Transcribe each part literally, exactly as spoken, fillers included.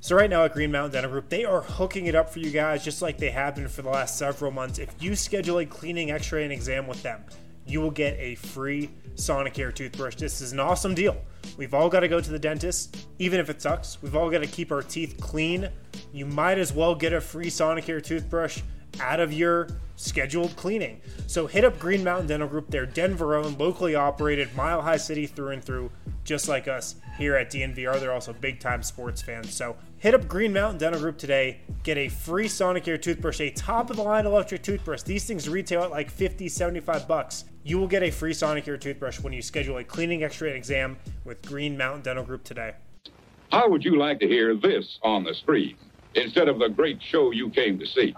So right now at Green Mountain Dental Group, they are hooking it up for you guys just like they have been for the last several months. If you schedule a cleaning, x-ray, and exam with them, you will get a free Sonicare toothbrush. This is an awesome deal. We've all got to go to the dentist, even if it sucks. We've all got to keep our teeth clean. You might as well get a free Sonicare toothbrush out of your scheduled cleaning. So hit up Green Mountain Dental Group. They're Denver-owned, locally operated, Mile High City through and through, just like us here at D N V R. They're also big-time sports fans. So hit up Green Mountain Dental Group today. Get a free Sonicare toothbrush, a top-of-the-line electric toothbrush. These things retail at like fifty, seventy-five bucks. You will get a free Sonicare toothbrush when you schedule a cleaning, x-ray, and exam with Green Mountain Dental Group today. How would you like to hear this on the screen instead of the great show you came to see?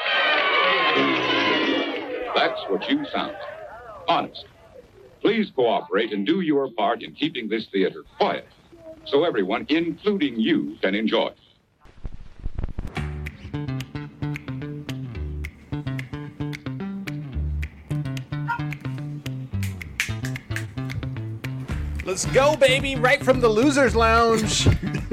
That's what you sound like. Honest. Please cooperate and do your part in keeping this theater quiet so everyone, including you, can enjoy it. Let's go, baby! Right from the Losers Lounge.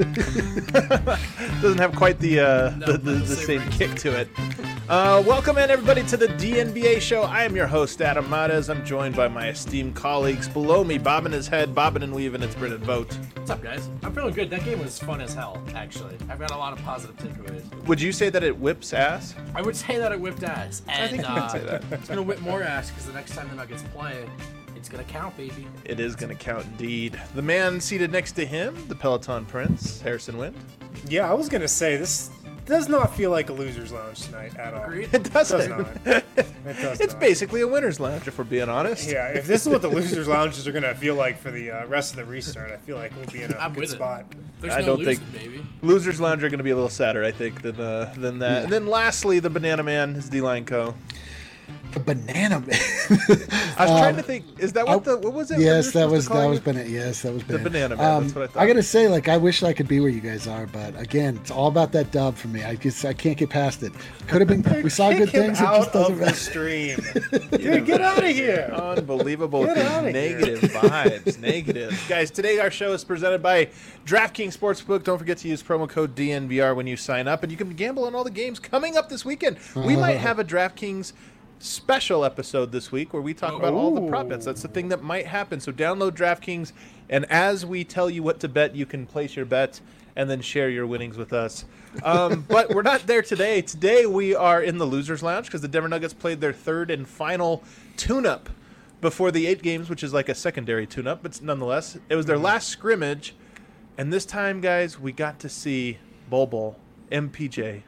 Doesn't have quite the uh, No, the, the, the say same right. kick to it. Uh, welcome in, everybody, to the D N B A show. I am your host, Adam Mares. I'm joined by my esteemed colleagues below me, bobbing his head, bobbing and weaving. It's Brennan Vogt. What's up, guys? I'm feeling good. That game was fun as hell, actually. I've got a lot of positive takeaways. Would you say that it whips ass? I would say that it whipped ass. And, I think you uh, could say that. It's going to whip more ass because the next time the Nuggets play, it's going to count, baby. It is going to count indeed. The man seated next to him, the Peloton Prince, Harrison Wind. Yeah, I was going to say, this does not feel like a loser's lounge tonight at all. Agreed? It It does doesn't. not. It does It's not. basically a winner's lounge, if we're being honest. Yeah, if this is what the losers' lounges are going to feel like for the uh, rest of the restart, I feel like we'll be in a I'm good with it. spot. There's I no don't losing, think- baby. Losers Lounge are going to be a little sadder, I think, than uh, than that. And then lastly, the Banana Man, his D-Line Co. The banana man. I was trying to think. Is that what I- the what was it? yes, we that were was supposed to that call was you? banana. Yes, that was banana. banana man, that's what I thought. I gotta say, like, I wish I could be where you guys are, but again, it's all about that dub for me. I just I can't get past it. Could have been. We saw Kick good him things. It out just doesn't of the matter. stream. Dude, get out of here. Unbelievable. Get These outta here. negative vibes. Negative. Guys, today our show is presented by DraftKings Sportsbook. Don't forget to use promo code D N V R when you sign up, and you can gamble on all the games coming up this weekend. We might have a DraftKings special episode this week where we talk about all the prop bets. That's the thing that might happen. So download DraftKings, and as we tell you what to bet, you can place your bet and then share your winnings with us. Um, but we're not there today. Today we are in the Losers Lounge because the Denver Nuggets played their third and final tune-up before the eight games, which is like a secondary tune-up, but nonetheless, it was their last scrimmage. And this time, guys, we got to see Bol Bol, M P J,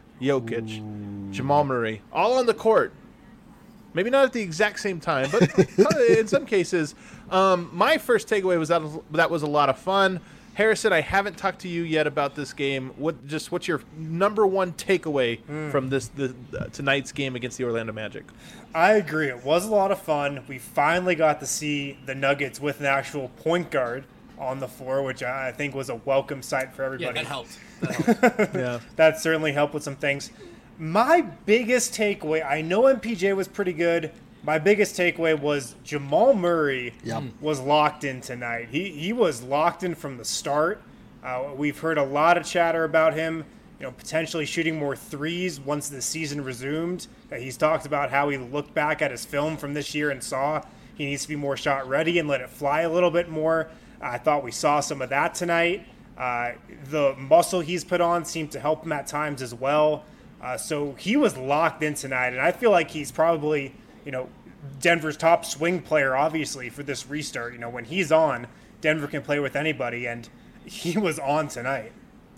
Jokic, Jamal Murray, all on the court. Maybe not at the exact same time, but in some cases. Um, my first takeaway was that that was a lot of fun. Harrison, I haven't talked to you yet about this game. What just what's your number one takeaway Mm. from this the, uh, tonight's game against the Orlando Magic? I agree. It was a lot of fun. We finally got to see the Nuggets with an actual point guard on the floor, which I think was a welcome sight for everybody. Yeah, that helped. That helped. Yeah, That certainly helped with some things. My biggest takeaway, I know M P J was pretty good. My biggest takeaway was Jamal Murray Yep. was locked in tonight. He he was locked in from the start. Uh, we've heard a lot of chatter about him, you know, potentially shooting more threes once the season resumed. Uh, he's talked about how he looked back at his film from this year and saw he needs to be more shot ready and let it fly a little bit more. I thought we saw some of that tonight. Uh, the muscle he's put on seemed to help him at times as well. Uh, so he was locked in tonight, and I feel like he's probably, you know, Denver's top swing player, obviously, for this restart. You know, when he's on, Denver can play with anybody, and he was on tonight.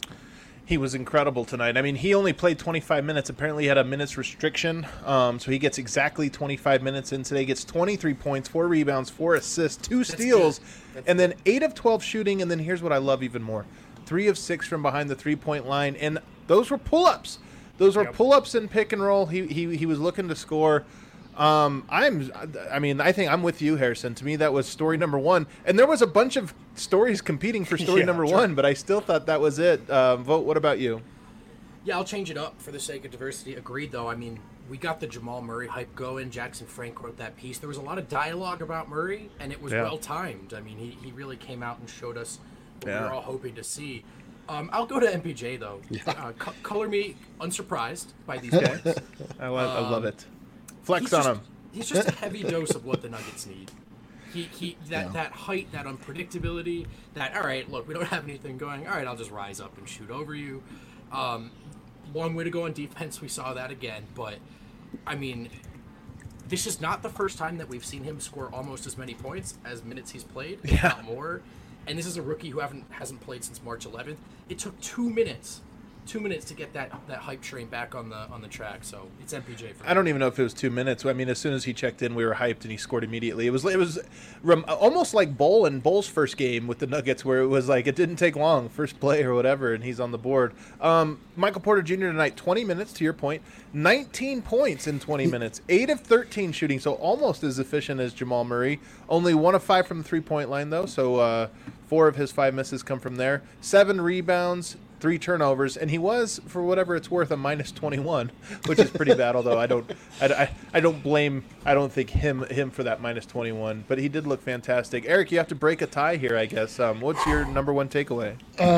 he was incredible tonight. I mean, he only played twenty-five minutes. Apparently, he had a minutes restriction, um, so he gets exactly twenty-five minutes in today. Gets twenty-three points, four rebounds, four assists, two steals, and then eight of twelve shooting. And then here's what I love even more: three of six from behind the three-point line, and those were pull-ups. Those were Yep. pull-ups and pick and roll. He he he was looking to score. Um, I'm, I mean, I think I'm with you, Harrison. To me, that was story number one, and there was a bunch of stories competing for story Yeah, number sure. one, but I still thought that was it. Um, Vote. What about you? Yeah, I'll change it up for the sake of diversity. Agreed, though. I mean, we got the Jamal Murray hype going. Jackson Frank wrote that piece. There was a lot of dialogue about Murray, and it was Yeah. well timed. I mean, he, he really came out and showed us what Yeah. we were all hoping to see. Um, I'll go to M P J though. Yeah. Uh, co- color me unsurprised by these guys. I, love, I love it. Flex He's on just, him. he's just a heavy dose of what the Nuggets need. He he that Yeah. that height, that unpredictability. That all right. Look, we don't have anything going. All right, I'll just rise up and shoot over you. Um, long way to go on defense. We saw that again, but I mean. This is not the first time that we've seen him score almost as many points as minutes he's played, if Yeah. not more. And this is a rookie who haven't hasn't played since March eleventh. It took two minutes, two minutes to get that, that hype train back on the on the track. So it's M P J for me. I don't even know if it was two minutes. I mean, as soon as he checked in, we were hyped, and he scored immediately. It was it was rem- almost like Bull and Bull's first game with the Nuggets, where it was like it didn't take long, first play or whatever, and he's on the board. Um, Michael Porter Junior tonight, twenty minutes, to your point, nineteen points in twenty minutes, eight of thirteen shooting, so almost as efficient as Jamal Murray. Only one of five from the three-point line, though, so uh, four of his five misses come from there. Seven rebounds, three turnovers, and he was, for whatever it's worth, a minus twenty-one, which is pretty bad. Although I don't, I, I, I don't blame, I don't think him him for that minus twenty-one. But he did look fantastic. Eric, you have to break a tie here, I guess. Um, what's your number one takeaway?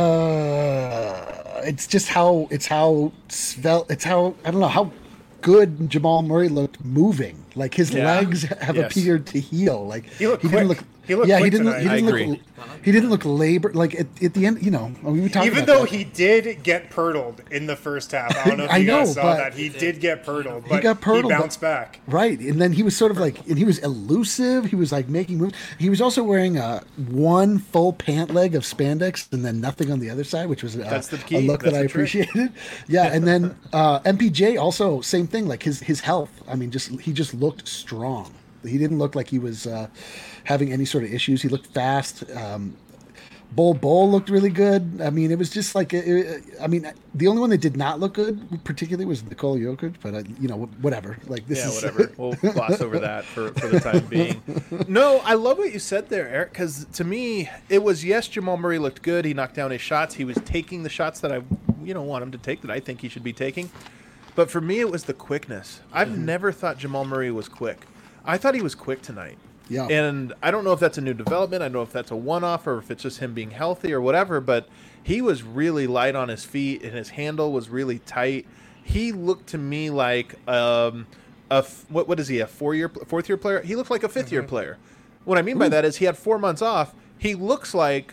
Uh, it's just how it's how svelte. It's how I don't know how good Jamal Murray looked moving. Like his Yeah. legs have Yes. appeared to heal. Like He looked didn't quick. look. He looked yeah, quick he didn't. Look, he tonight. didn't I look. agree. He didn't look labor. Like at, at the end, you know, we were talking Even about though that. he did get purtled in the first half, I don't know if I you guys know, saw but- that. He did get purtled, but he, got purtled, but- bounced back. Right, and then he was sort of like, and he was elusive. He was like making moves. He was also wearing uh, one full pant leg of spandex and then nothing on the other side, which was uh, That's the a key. look That's that I the trick. appreciated. Yeah, and then uh, M P J also same thing. Like his his health. I mean, just he just looked strong. He didn't look like he was uh, having any sort of issues. He looked fast. Um, Bull Bull looked really good. I mean, it was just like, it, it- I mean, the only one that did not look good, particularly, was Nikola Jokic. But uh, you know, whatever. Like this Yeah, is whatever. We'll gloss over that for, for the time being. No, I love what you said there, Eric, because to me, it was, yes, Jamal Murray looked good. He knocked down his shots. He was taking the shots that I, you know, want him to take, that I think he should be taking. But for me, it was the quickness. I've never thought Jamal Murray was quick. I thought he was quick tonight. Yeah. And I don't know if that's a new development. I don't know if that's a one-off or if it's just him being healthy or whatever, but he was really light on his feet and his handle was really tight. He looked to me like um, a f- what what is he, a four-year fourth year player? He looked like a fifth-year player. What I mean by that is he had four months off. He looks like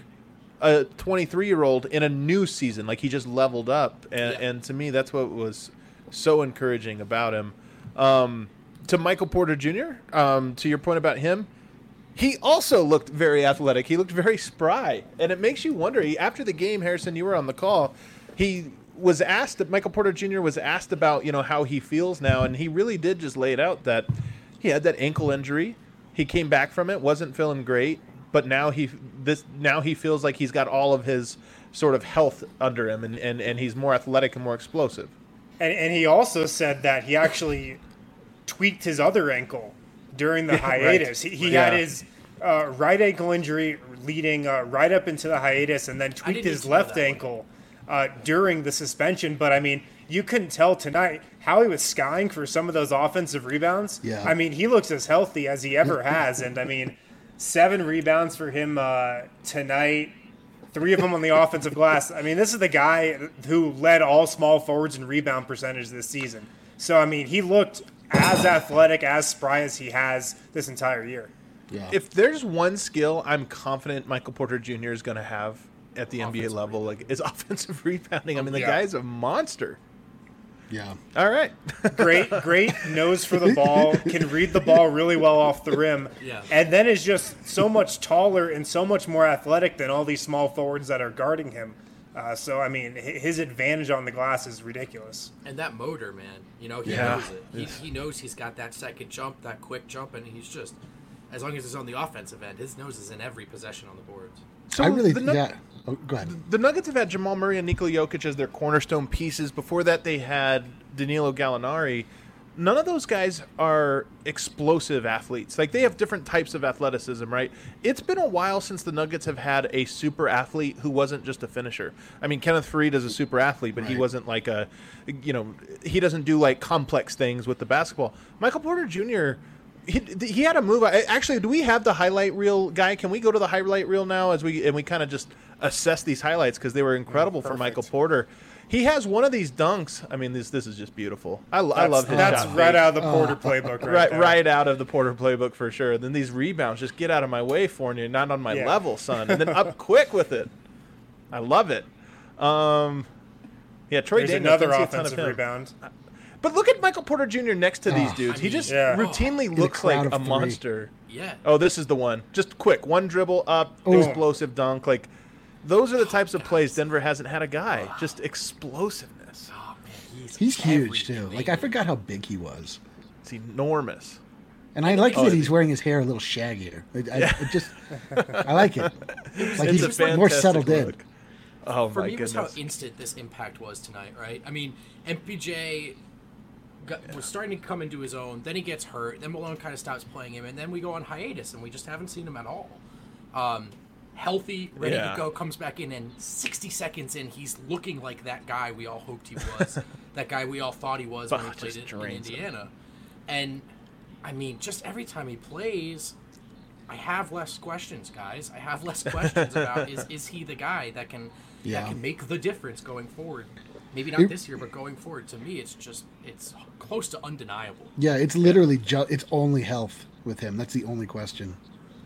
a twenty-three-year-old in a new season, like he just leveled up. And, Yeah. and to me, that's what was so encouraging about him. Um, to Michael Porter Junior, um, to your point about him, he also looked very athletic. He looked very spry. And it makes you wonder, he, after the game, Harrison, you were on the call, he was asked, Michael Porter Junior was asked about, you know, how he feels now, and he really did just lay it out that he had that ankle injury. He came back from it, wasn't feeling great, but now he this now he feels like he's got all of his sort of health under him, and, and, and he's more athletic and more explosive. And, and he also said that he actually tweaked his other ankle during the Yeah, right. hiatus. He, he Yeah. had his uh, right ankle injury leading uh, right up into the hiatus, and then tweaked didn't his even know left that one. ankle uh, during the suspension. But I mean, you couldn't tell tonight how he was skying for some of those offensive rebounds. Yeah. I mean, he looks as healthy as he ever has, and I mean, seven rebounds for him uh, tonight. Three of them on the offensive glass. I mean, this is the guy who led all small forwards in rebound percentage this season. So, I mean, he looked as athletic, as spry as he has this entire year. Yeah. If there's one skill I'm confident Michael Porter Junior is going to have at the N B A Offensive level, like, is offensive rebounding. I mean, the Yeah. guy's a monster. yeah. All right. Great, great nose for the ball, can read the ball really well off the rim, Yeah. and then is just so much taller and so much more athletic than all these small forwards that are guarding him. Uh, so, I mean, hi- his advantage on the glass is ridiculous. And that motor, man, you know, he Yeah. knows it. He, he knows he's got that second jump, that quick jump, and he's just, as long as it's on the offensive end, his nose is in every possession on the boards. So I really, the, Nu- yeah. Oh, go ahead. the Nuggets have had Jamal Murray and Nikola Jokic as their cornerstone pieces. Before that, they had Danilo Gallinari. None of those guys are explosive athletes. Like, they have different types of athleticism, right? It's been a while since the Nuggets have had a super athlete who wasn't just a finisher. I mean, Kenneth Faried is a super athlete, but he Right. wasn't like a, you know, he doesn't do like complex things with the basketball. Michael Porter Junior, he, he had a move. I- Actually, do we have the highlight reel guy? Can we go to the highlight reel now as we and we kind of just assess these highlights because they were incredible Mm, for Michael perfect. Porter. He has one of these dunks. I mean, this this is just beautiful. I, I That's- love his That's shot right fake. out of the Porter playbook, right? right there. right out of the Porter playbook for sure. Then these rebounds, just get out of my way, Fournier, not on my Yeah. level, son. And then up quick with it. I love it. Um, yeah, Troy There's Daniels, another don't see a ton of offensive him. rebound. But look at Michael Porter Junior next to these Oh, dudes. I He mean, just Yeah. routinely a looks crowd like of a three. monster. Yeah. Oh, this is the one. Just quick, one dribble up, Oh. explosive dunk. Like those are the types of plays Denver hasn't had a guy. Just explosiveness. Oh, man, he's, He's huge too. everything. Like I forgot how big he was, It's enormous. and I like Oh, that it- he's wearing his hair a little shaggier. I, I, it just, I like it. Like It's he's a fantastic more settled in. look. Oh For my me, it was how goodness. instant this impact was tonight, right? I mean, M P J got, was starting to come into his own. Then he gets hurt. Then Malone kind of stops playing him, and then we go on hiatus, and we just haven't seen him at all. Um, healthy, ready Yeah. to go, comes back in, and sixty seconds in, he's looking like that guy we all hoped he was, that guy we all thought he was when he Bah, played just in, in drains him. Indiana. And I mean, just every time he plays, I have less questions, guys. I have less questions about is is he the guy that can Yeah. that can make the difference going forward? Maybe not It- this year, but going forward. To me, it's just it's close to undeniable. Yeah, it's literally ju- it's only health with him. That's the only question.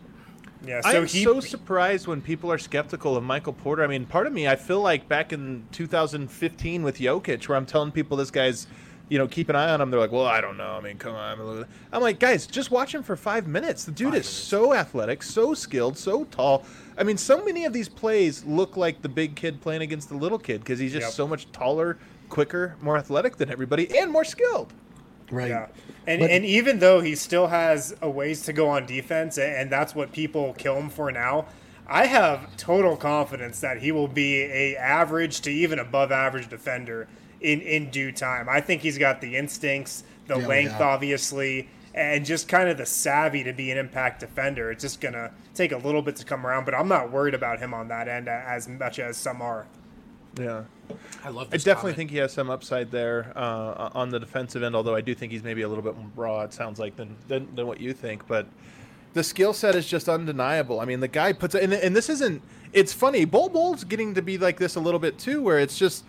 Yeah, so I'm he so surprised when people are skeptical of Michael Porter. I mean, part of me, I feel like back in two thousand fifteen with Jokic, where I'm telling people this guy's, you know, keep an eye on him. They're like, well, I don't know. I mean, come on. I'm like, guys, just watch him for five minutes. The dude Five is minutes. so athletic, so skilled, so tall. I mean, so many of these plays look like the big kid playing against the little kid because he's just Yep. so much taller, quicker, more athletic than everybody, and more skilled. Right. Yeah, and But- and even though he still has a ways to go on defense, a- and that's what people kill him for now, I have total confidence that he will be a average to even above average defender in in due time. I think he's got the instincts, the Yeah, length, yeah. obviously, and just kind of the savvy to be an impact defender. It's just gonna take a little bit to come around, but I'm not worried about him on that end as much as some are. Yeah. I love. I This definitely comment. think he has some upside there uh, on the defensive end, although I do think he's maybe a little bit more raw, it sounds like, than, than, than what you think. But the skill set is just undeniable. I mean, the guy puts – and and this isn't – it's funny. Bol Bol's getting to be like this a little bit too, where it's just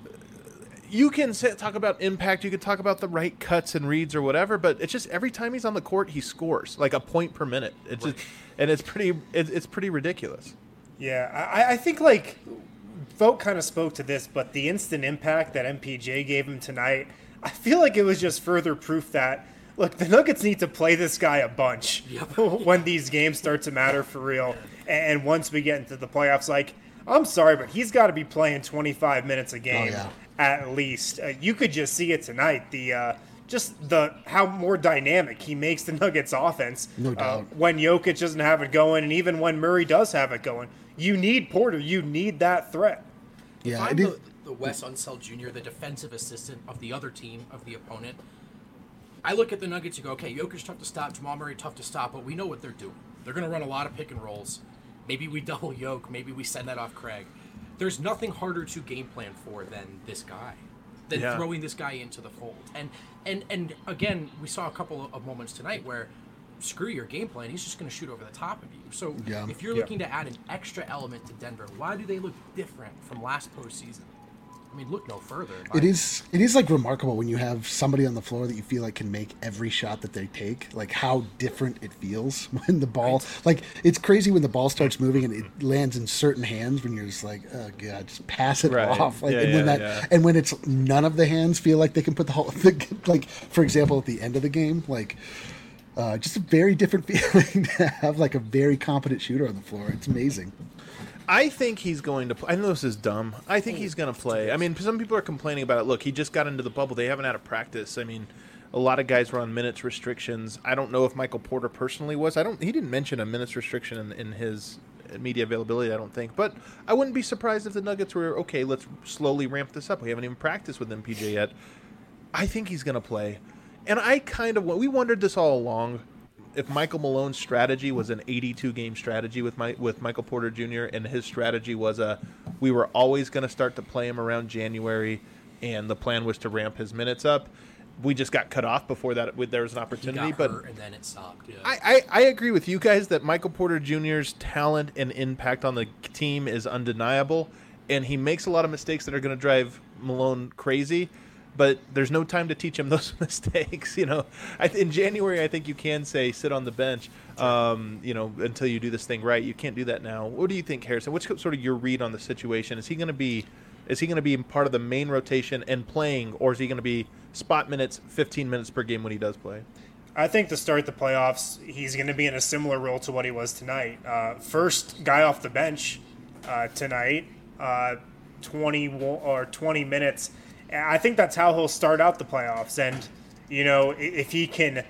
– you can say, talk about impact, you can talk about the right cuts and reads or whatever, but it's just every time he's on the court, he scores, like a point per minute. It's just, and it's pretty it, it's pretty ridiculous. Yeah, I, I think like Vogt kind of spoke to this, but the instant impact that M P J gave him tonight, I feel like it was just further proof that look, the Nuggets need to play this guy a bunch Yep. when these games start to matter for real. And once we get into the playoffs, like I'm sorry, but he's got to be playing twenty-five minutes a game yeah. at least. Uh, you could just see it tonight. The uh, just the how more dynamic he makes the Nuggets offense. No uh, doubt. when Jokic doesn't have it going, and even when Murray does have it going, you need Porter. You need that threat. If Yeah, I'm it is, the, the Wes Unseld Junior, the defensive assistant of the other team, of the opponent, I look at the Nuggets and go, okay, Jokic tough to stop, Jamal Murray tough to stop, but we know what they're doing. They're going to run a lot of pick and rolls. Maybe we double Yoke. Maybe we send that off Craig. There's nothing harder to game plan for than this guy, than Yeah. throwing this guy into the fold. And and and again, we saw a couple of moments tonight where screw your game plan. He's just going to shoot over the top of you. So Yeah. if you're Yeah. looking to add an extra element to Denver, why do they look different from last postseason? I mean, look no further. in my it is it is like remarkable when you have somebody on the floor that you feel like can make every shot that they take. Like how different it feels when the ball like it's crazy when the ball starts moving and it lands in certain hands when you're just like, oh god, just pass it Right. off. Like Yeah, and when yeah, that yeah. and when it's none of the hands feel like they can put the whole like for example at the end of the game, like uh, just a very different feeling to have like a very competent shooter on the floor. It's amazing. I think he's going to play. I know this is dumb. I think he's going to play. I mean, some people are complaining about it. Look, he just got into the bubble. They haven't had a practice. I mean, a lot of guys were on minutes restrictions. I don't know if Michael Porter personally was. I don't. He didn't mention a minutes restriction in, in his media availability, I don't think. But I wouldn't be surprised if the Nuggets were, okay, let's slowly ramp this up. We haven't even practiced with M P J yet. I think he's going to play. And I kind of, we wondered this all along, if Michael Malone's strategy was an eighty-two game strategy with my, with Michael Porter Junior, and his strategy was a, we were always going to start to play him around January, and the plan was to ramp his minutes up. we just got cut off before that. There was an opportunity, he got but hurt and then it stopped. Yeah. I, I, I agree with you guys that Michael Porter Junior's talent and impact on the team is undeniable, and he makes a lot of mistakes that are going to drive Malone crazy. But there's no time to teach him those mistakes. You know, I, in January, I think you can say sit on the bench, um, you know, until you do this thing right. You can't do that now. What do you think, Harrison? What's sort of your read on the situation? Is he going to be, is he going to be part of the main rotation and playing, or is he going to be spot minutes, fifteen minutes per game when he does play? I think to start the playoffs, he's going to be in a similar role to what he was tonight. Uh, first guy off the bench uh, tonight, uh, twenty or twenty minutes. I think that's how he'll start out the playoffs. And, you know, if he can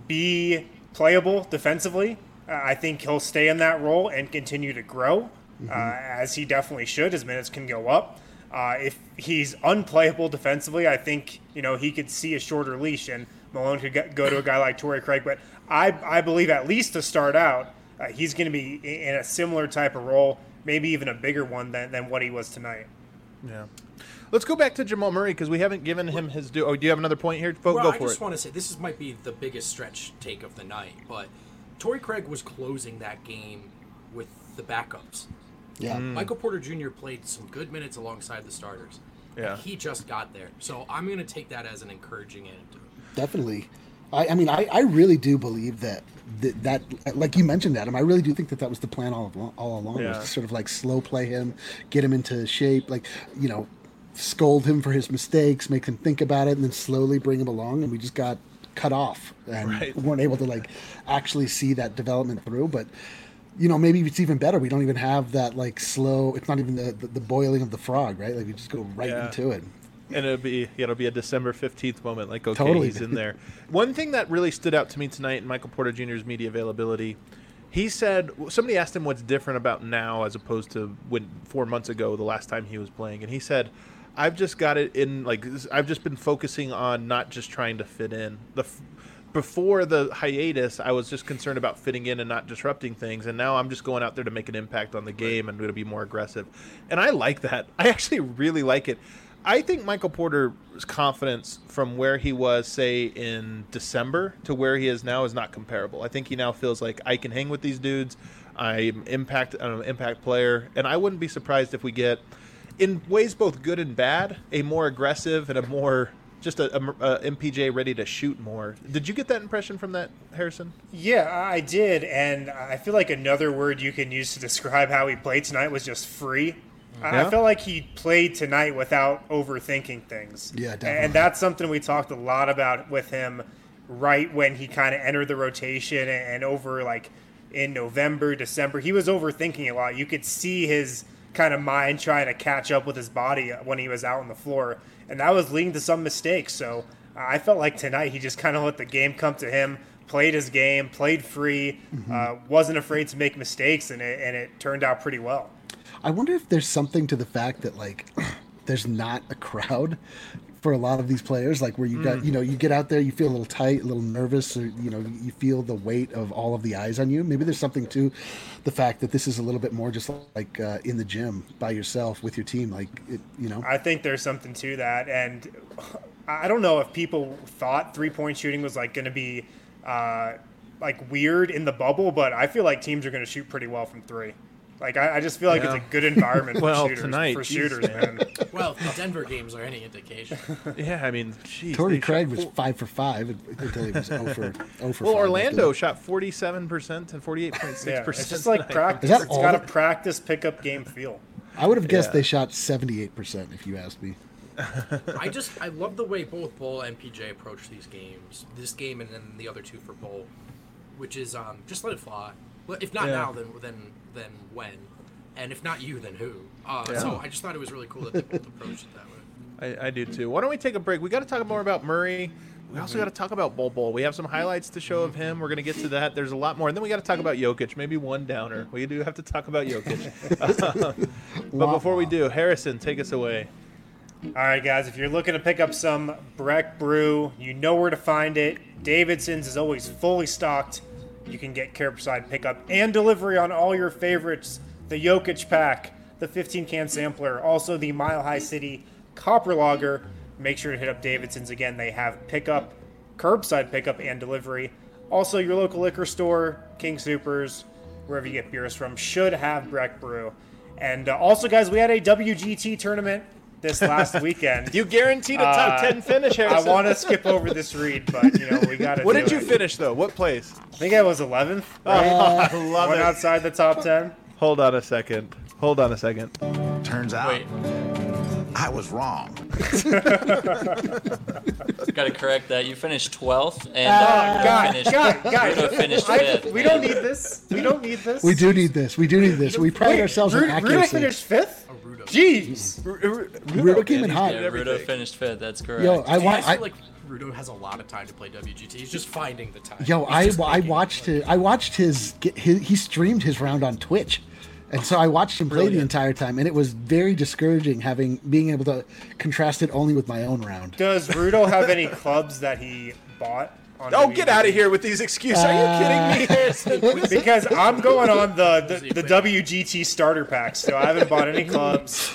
be playable defensively, uh, I think he'll stay in that role and continue to grow, mm-hmm. uh, as he definitely should. His minutes can go up. Uh, if he's unplayable defensively, I think, you know, he could see a shorter leash and Malone could get, go to a guy like Torrey Craig. But I, I believe at least to start out, uh, he's going to be in a similar type of role, maybe even a bigger one than, than what he was tonight. Yeah. Let's go back to Jamal Murray because we haven't given him his due. Oh, do you have another point here? Go, well, go I for just it. want to say this is, might be the biggest stretch take of the night, but Torrey Craig was closing that game with the backups. Yeah. Mm. Michael Porter Junior played some good minutes alongside the starters. Yeah. He just got there. So I'm going to take that as an encouraging anecdote. Definitely. I, I mean, I, I really do believe that, that, that, like you mentioned, Adam, I really do think that that was the plan all along, all along Yeah. was to sort of like slow play him, get him into shape, like, you know, scold him for his mistakes, make him think about it, and then slowly bring him along. And we just got cut off and Right. weren't able to like actually see that development through. But, you know, maybe it's even better. We don't even have that like slow, it's not even the, the, the boiling of the frog, right? Like we just go right Yeah. into it. And it'll be it'll be a December fifteenth moment, like, okay, Totally. he's in there. One thing that really stood out to me tonight in Michael Porter Junior's media availability, he said, somebody asked him what's different about now as opposed to when four months ago, the last time he was playing. And he said, I've just got it in, like, I've just been focusing on not just trying to fit in. The Before the hiatus, I was just concerned about fitting in and not disrupting things. And now I'm just going out there to make an impact on the game and to be more aggressive. And I like that. I actually really like it. I think Michael Porter's confidence from where he was, say, in December to where he is now is not comparable. I think he now feels like I can hang with these dudes. I'm impact, I'm an impact player. And I wouldn't be surprised if we get, in ways both good and bad, a more aggressive and a more just a, a, a M P J ready to shoot more. Did you get that impression from that, Harrison? Yeah, I did. And I feel like another word you can use to describe how he played tonight was just free. Yeah. I felt like he played tonight without overthinking things. Yeah, definitely. And that's something we talked a lot about with him right when he kind of entered the rotation and over like in November, December. He was overthinking a lot. You could see his kind of mind trying to catch up with his body when he was out on the floor. And that was leading to some mistakes. So uh, I felt like tonight he just kind of let the game come to him, played his game, played free, mm-hmm. uh, wasn't afraid to make mistakes, and it, and it turned out pretty well. I wonder if there's something to the fact that like there's not a crowd for a lot of these players, like where you got, mm. you know, you get out there, you feel a little tight, a little nervous, or, you know, you feel the weight of all of the eyes on you. Maybe there's something to the fact that this is a little bit more just like uh, in the gym by yourself with your team. Like, it, you know, I think there's something to that. And I don't know if people thought three point shooting was like going to be uh, like weird in the bubble, but I feel like teams are going to shoot pretty well from three. Like, I, I just feel like yeah. it's a good environment well, for shooters. tonight, for geez, shooters, man. man. Well, the Denver games are any indication. Yeah, I mean, geez. Torrey Craig was five for five until he was zero for zero for Well, five. Orlando shot forty-seven percent and forty-eight point six Yeah, percent. it's just like practice. Is that It's all got a the- practice pickup game feel. I would have guessed Yeah. they shot seventy-eight percent if you asked me. I just I love the way both Bull and P J approach these games. This game and then the other two for Bull, which is um, just let it fly. Well, if not Yeah. now, then then then when, and if not you, then who? Uh, Yeah. So I just thought it was really cool that they both approached it that way. I, I do too. Why don't we take a break? We got to talk more about Murray. We also got to talk about Bol Bol. We have some highlights to show of him. We're going to get to that. There's a lot more. And then we got to talk about Jokic. Maybe one downer. We do have to talk about Jokic. But before we do, Harrison, take us away. All right, guys, if you're looking to pick up some Breck Brew, you know where to find it. Davidson's is always fully stocked. You can get curbside pickup and delivery on all your favorites. The Jokic pack, the fifteen can sampler, also the Mile High City Copper Lager. make sure to hit up Davidson's again. They have pickup, curbside pickup and delivery. Also, your local liquor store, King Soopers, wherever you get beers from, should have Breck Brew. And uh, also, guys, we had a W G T tournament this last weekend. You guaranteed a top Uh, ten finish, Harrison. I want to skip over this read, but you know we got to. What do did you it. finish though? What place? I think I was eleventh. Oh, Right? I love Went it. outside the top ten. Hold on a second. Hold on a second. Turns out Wait, I was wrong. Got to correct that. You finished twelfth, and Uh, uh, God, finished, God, God. Rudo finished I- fifth. we don't need this. We don't need this. We do need this. We do need this. We pride Wait, ourselves on Rudo, Rudo accuracy. finished fifth. a Rudo. Jeez. Rudo came in hot. Yeah, Rudo finished fifth. That's correct. Yo, I Do you want. guys I, feel like Rudo has a lot of time to play W G T? He's just finding the time. Yo, He's I, just I making watched it. his, I watched his, get his he streamed his round on Twitch, and so I watched him play the Brilliant. entire time, and it was very discouraging having being able to contrast it only with my own round. Does Rudo have any clubs that he bought? On Oh, W G get T? out of here with these excuses. Are you kidding me, Harrison? Because I'm going on the, the, the W G T starter packs, so I haven't bought any clubs.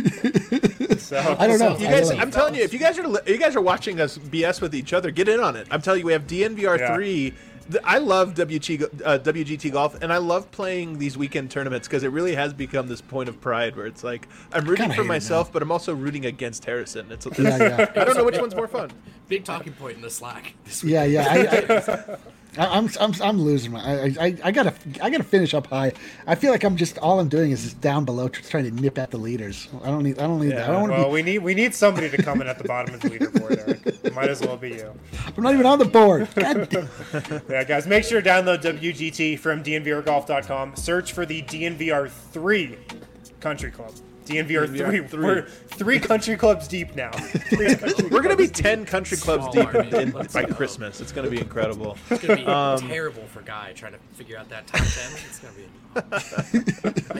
So I don't know. You I guys, don't know. I'm telling you, if you guys are li- you guys are watching us B S with each other, get in on it. I'm telling you, we have D N V R three. Th- I love W G, uh, W G T golf, and I love playing these weekend tournaments because it really has become this point of pride where it's like I'm rooting Kinda for hate it myself, now. but I'm also rooting against Harrison. It's, it's Yeah, yeah. I don't know which one's more fun. Big talking point in the Slack this week. Yeah, yeah. I, I, I, I'm, I'm, I'm losing my. I, I, I gotta, I gotta finish up high. I feel like I'm just all I'm doing is just down below, tr- trying to nip at the leaders. I don't need, I don't need. Yeah. I don't want to well, be. we need we need somebody to come in at the bottom of the leaderboard, Eric. Might as well be you. I'm not even on the board. God damn. Yeah, guys, make sure to download W G T from D N V R golf dot com. Search for the D N V R three Country Club. D N V R three. three. We're three country clubs deep now. Three country We're gonna be clubs ten country clubs Small deep army. in, Let's by go. Christmas. It's gonna be incredible. It's gonna be Um, terrible for Guy trying to figure out that top ten. It's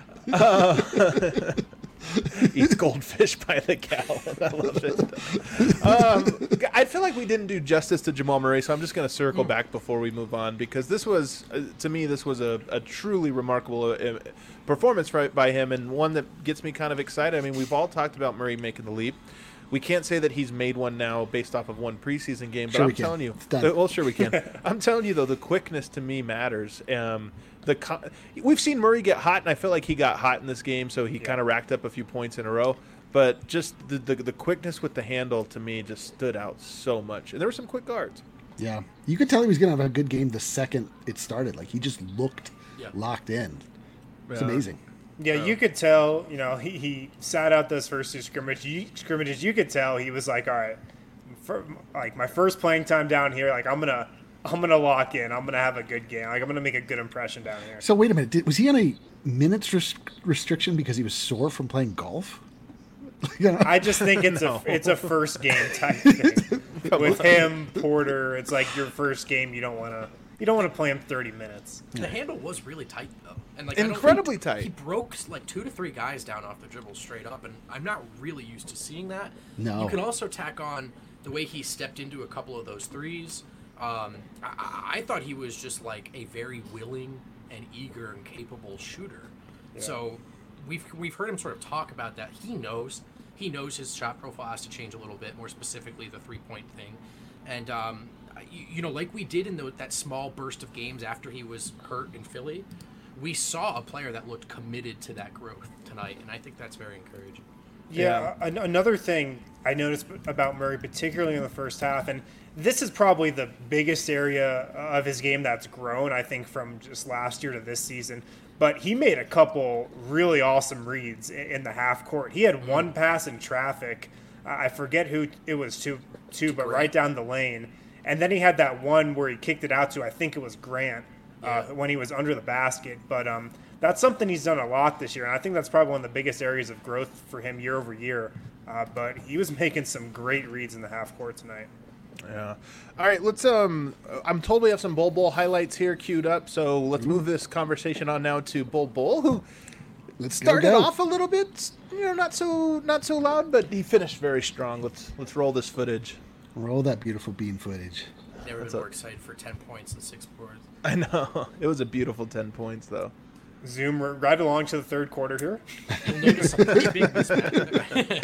gonna be. Eats goldfish by the gallon. I love it. Um, I feel like we didn't do justice to Jamal Murray, so I'm just going to circle back before we move on because this was, uh, to me, this was a, a truly remarkable uh, performance by, by him and one that gets me kind of excited. I mean, we've all talked about Murray making the leap. We can't say that he's made one now based off of one preseason game, but Sure I'm we can. telling you, It's done. uh, well, sure we can. I'm telling you though, the quickness to me matters. Um, the co- we've seen Murray get hot, and I feel like he got hot in this game, so he kind of racked up a few points in a row. But just the, the the quickness with the handle to me just stood out so much, and there were some quick guards. Yeah, you could tell he was gonna have a good game the second it started. Like he just looked Yeah. locked in. It's Yeah. amazing. Yeah, you could tell, you know, he, he sat out those first two scrimmage, you, scrimmages. You could tell he was like, all right, for, like my first playing time down here, like I'm gonna I'm gonna lock in. I'm gonna have a good game. Like I'm gonna make a good impression down here. So wait a minute, did, was he on a minutes res- restriction because he was sore from playing golf? You know? I just think it's No. a it's a first game type thing with him, Porter. It's like your first game. You don't want to you don't want to play him thirty minutes. The handle was really tight though, and like I don't Incredibly think- tight. He broke like two to three guys down off the dribble straight up, and I'm not really used to seeing that. No. You can also tack on the way he stepped into a couple of those threes. Um, I, I- I thought he was just like a very willing and eager and capable shooter. So we've we've heard him sort of talk about that. He knows he knows his shot profile has to change a little bit, more specifically the three point thing, and um, you, you know, like we did in the, that small burst of games after he was hurt in Philly, we saw a player that looked committed to that growth tonight, and I think that's very encouraging. Yeah, an- another thing I noticed about Murray, particularly in the first half, and this is probably the biggest area of his game that's grown, I think, from just last year to this season. But he made a couple really awesome reads i- in the half court. He had one pass in traffic. I forget who it was to, to but right down the lane. And then he had that one where he kicked it out to, I think it was Grant, uh, when he was under the basket. But um, that's something he's done a lot this year. And I think that's probably one of the biggest areas of growth for him year over year. Uh, but he was making some great reads in the half court tonight. Yeah. All right, let's um I'm told we have some Bull Bull highlights here queued up, so let's move this conversation on now to Bull Bull, who Let's go, started go. off a little bit, you know, not so not so loud, but he finished very strong. Let's let's roll this footage. Roll that beautiful bean footage. Never What's been up? more excited for ten points and six boards. I know. It was a beautiful ten points though. Zoom r- right along to the third quarter here. You'll notice a pretty big mismatch.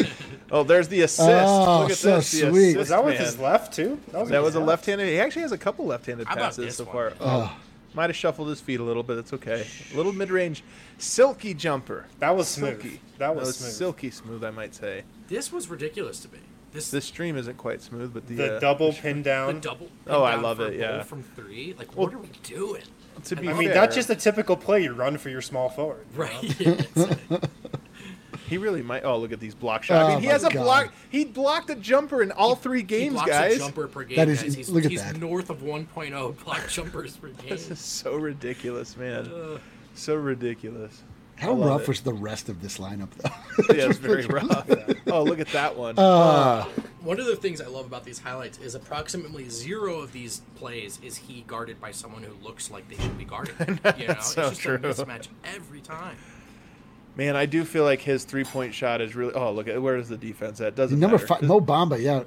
Oh, there's the assist. Oh, Look at so this. The sweet. assist, Was that with man. his left too? was, That with was a his left-handed. He actually has a couple left-handed How about passes this so one? far. Oh. Might have shuffled his feet a little bit. It's okay. A little mid-range, silky jumper. That was smooth. Silky. That was smooth. silky smooth, I might say. This was ridiculous to me. This This stream isn't quite smooth, but the, The uh, double pin the down. double. Oh, I down love for it, a yeah. goal from three. Like, Well, what are we doing? to be I fair, mean, that's just a typical play you run for your small forward. Right. It's- he really might. Oh, look at these block shots. I Oh mean, he my has a God. block. He blocked a jumper in all three he games, blocks guys. a jumper per game, That is- guys. He's, look at he's that. north of one point oh block jumpers per game. This is so ridiculous, man. So ridiculous. How I love rough it. was the rest of this lineup, though? Yeah, it's very rough. Oh, look at that one. Uh, One of the things I love about these highlights is approximately zero of these plays is he guarded by someone who looks like they should be guarded. You know, it's so just true. a mismatch every time. Man, I do feel like his three-point shot is really. Oh, look at where is the defense at? Doesn't number matter. five, Mo Bamba, yeah.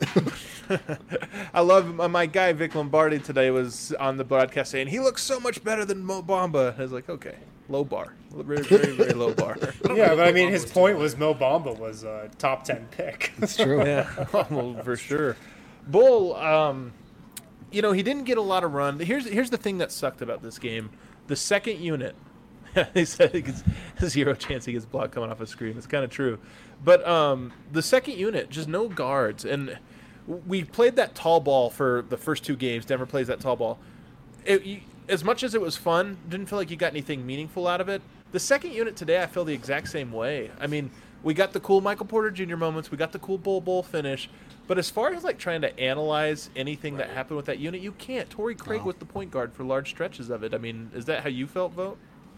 I love my- my guy Vic Lombardi today was on the broadcast saying he looks so much better than Mo Bamba. I was like, okay, low bar, very very very low bar. Yeah, but I mean, Mo his Bamba's point too was Mo Bamba was a top ten pick. It's true. Yeah, well, for sure. Bull, um, you know, he didn't get a lot of run. Here's here's the thing that sucked about this game: the second unit. He said he gets zero chance he gets blocked coming off a screen. It's kind of true, but um, the second unit just no guards, and we played that tall ball for the first two games. Denver plays that tall ball. It, you, as much as it was fun, didn't feel like you got anything meaningful out of it. The second unit today, I feel the exact same way. I mean, we got the cool Michael Porter Junior moments, we got the cool Bull Bull finish, but as far as like trying to analyze anything that happened with that unit, you can't. Torrey Craig No. was the point guard for large stretches of it. I mean, is that how you felt, Vote?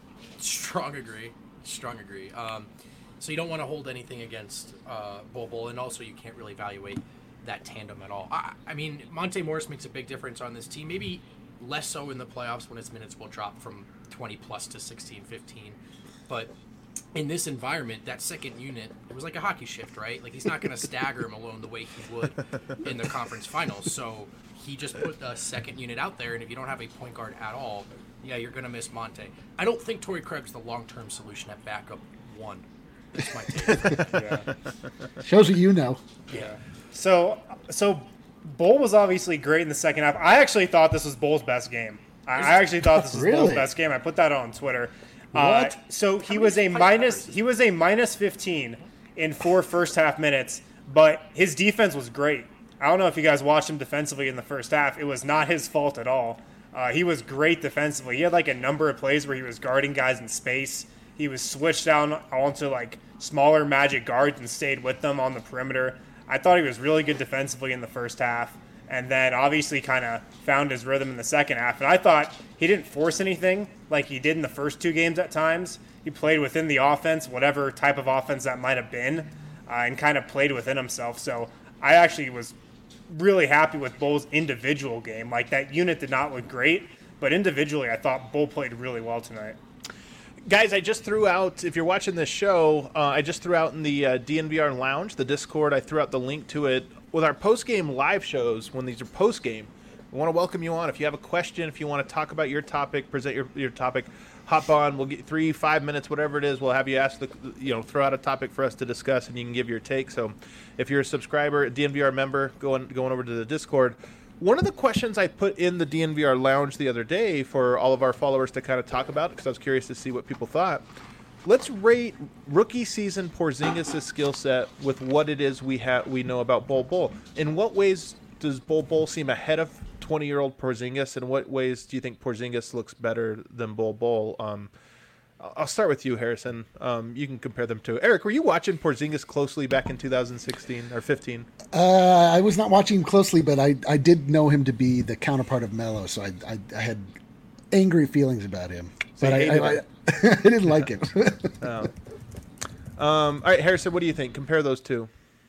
Strong agree. Strong agree. Um, so you don't want to hold anything against uh, Bol Bol, and also you can't really evaluate that tandem at all. I, I mean, Monte Morris makes a big difference on this team. Maybe less so in the playoffs when his minutes will drop from twenty plus to sixteen, fifteen. But in this environment, that second unit, it was like a hockey shift, right? Like he's not going to stagger him alone the way he would in the conference finals. So he just put the second unit out there, and if you don't have a point guard at all, yeah, you're going to miss Monte. I don't think Torrey Craig's the long-term solution at backup one. That's my take. Yeah. Shows what you know. Yeah. So, so Bull was obviously great in the second half. I actually thought this was Bull's best game. I, I actually thought this was Bull's Really? best game. I put that on Twitter. Uh, What? so he many was a fight minus. hours? He was a minus fifteen in four first half minutes, but his defense was great. I don't know if you guys watched him defensively in the first half. It was not his fault at all. Uh, he was great defensively. He had like a number of plays where he was guarding guys in space. He was switched down onto like smaller Magic guards and stayed with them on the perimeter. I thought he was really good defensively in the first half, and then obviously kind of found his rhythm in the second half. And I thought he didn't force anything like he did in the first two games at times. He played within the offense, whatever type of offense that might have been, uh, and kind of played within himself. So I actually was really happy with Bull's individual game. Like that unit did not look great, but individually I thought Bull played really well tonight. Guys, I just threw out, if you're watching this show, uh, I just threw out in the uh, D N V R Lounge, the Discord, I threw out the link to it. With our post-game live shows, when these are post-game, we want to welcome you on. If you have a question, if you want to talk about your topic, present your, your topic, hop on. We'll get three, five minutes, whatever it is. We'll have you ask, the, you know, throw out a topic for us to discuss, and you can give your take. So if you're a subscriber, a D N V R member, going, going over to the Discord, one of the questions I put in the D N V R Lounge the other day for all of our followers to kind of talk about, because I was curious to see what people thought. Let's rate rookie season Porzingis' skill set with what it is we have we know about Bol Bol. In what ways does Bol Bol seem ahead of twenty-year-old Porzingis? In what ways do you think Porzingis looks better than Bol Bol? Um, I'll start with you, Harrison. Um, you can compare them to Eric. Were you watching Porzingis closely back in two thousand sixteen or fifteen? Uh, I was not watching him closely, but I, I did know him to be the counterpart of Melo, so I, I, I had angry feelings about him. So But you I, hated I, I, him. I didn't like him. Um, all right, Harrison, what do you think? Compare those two.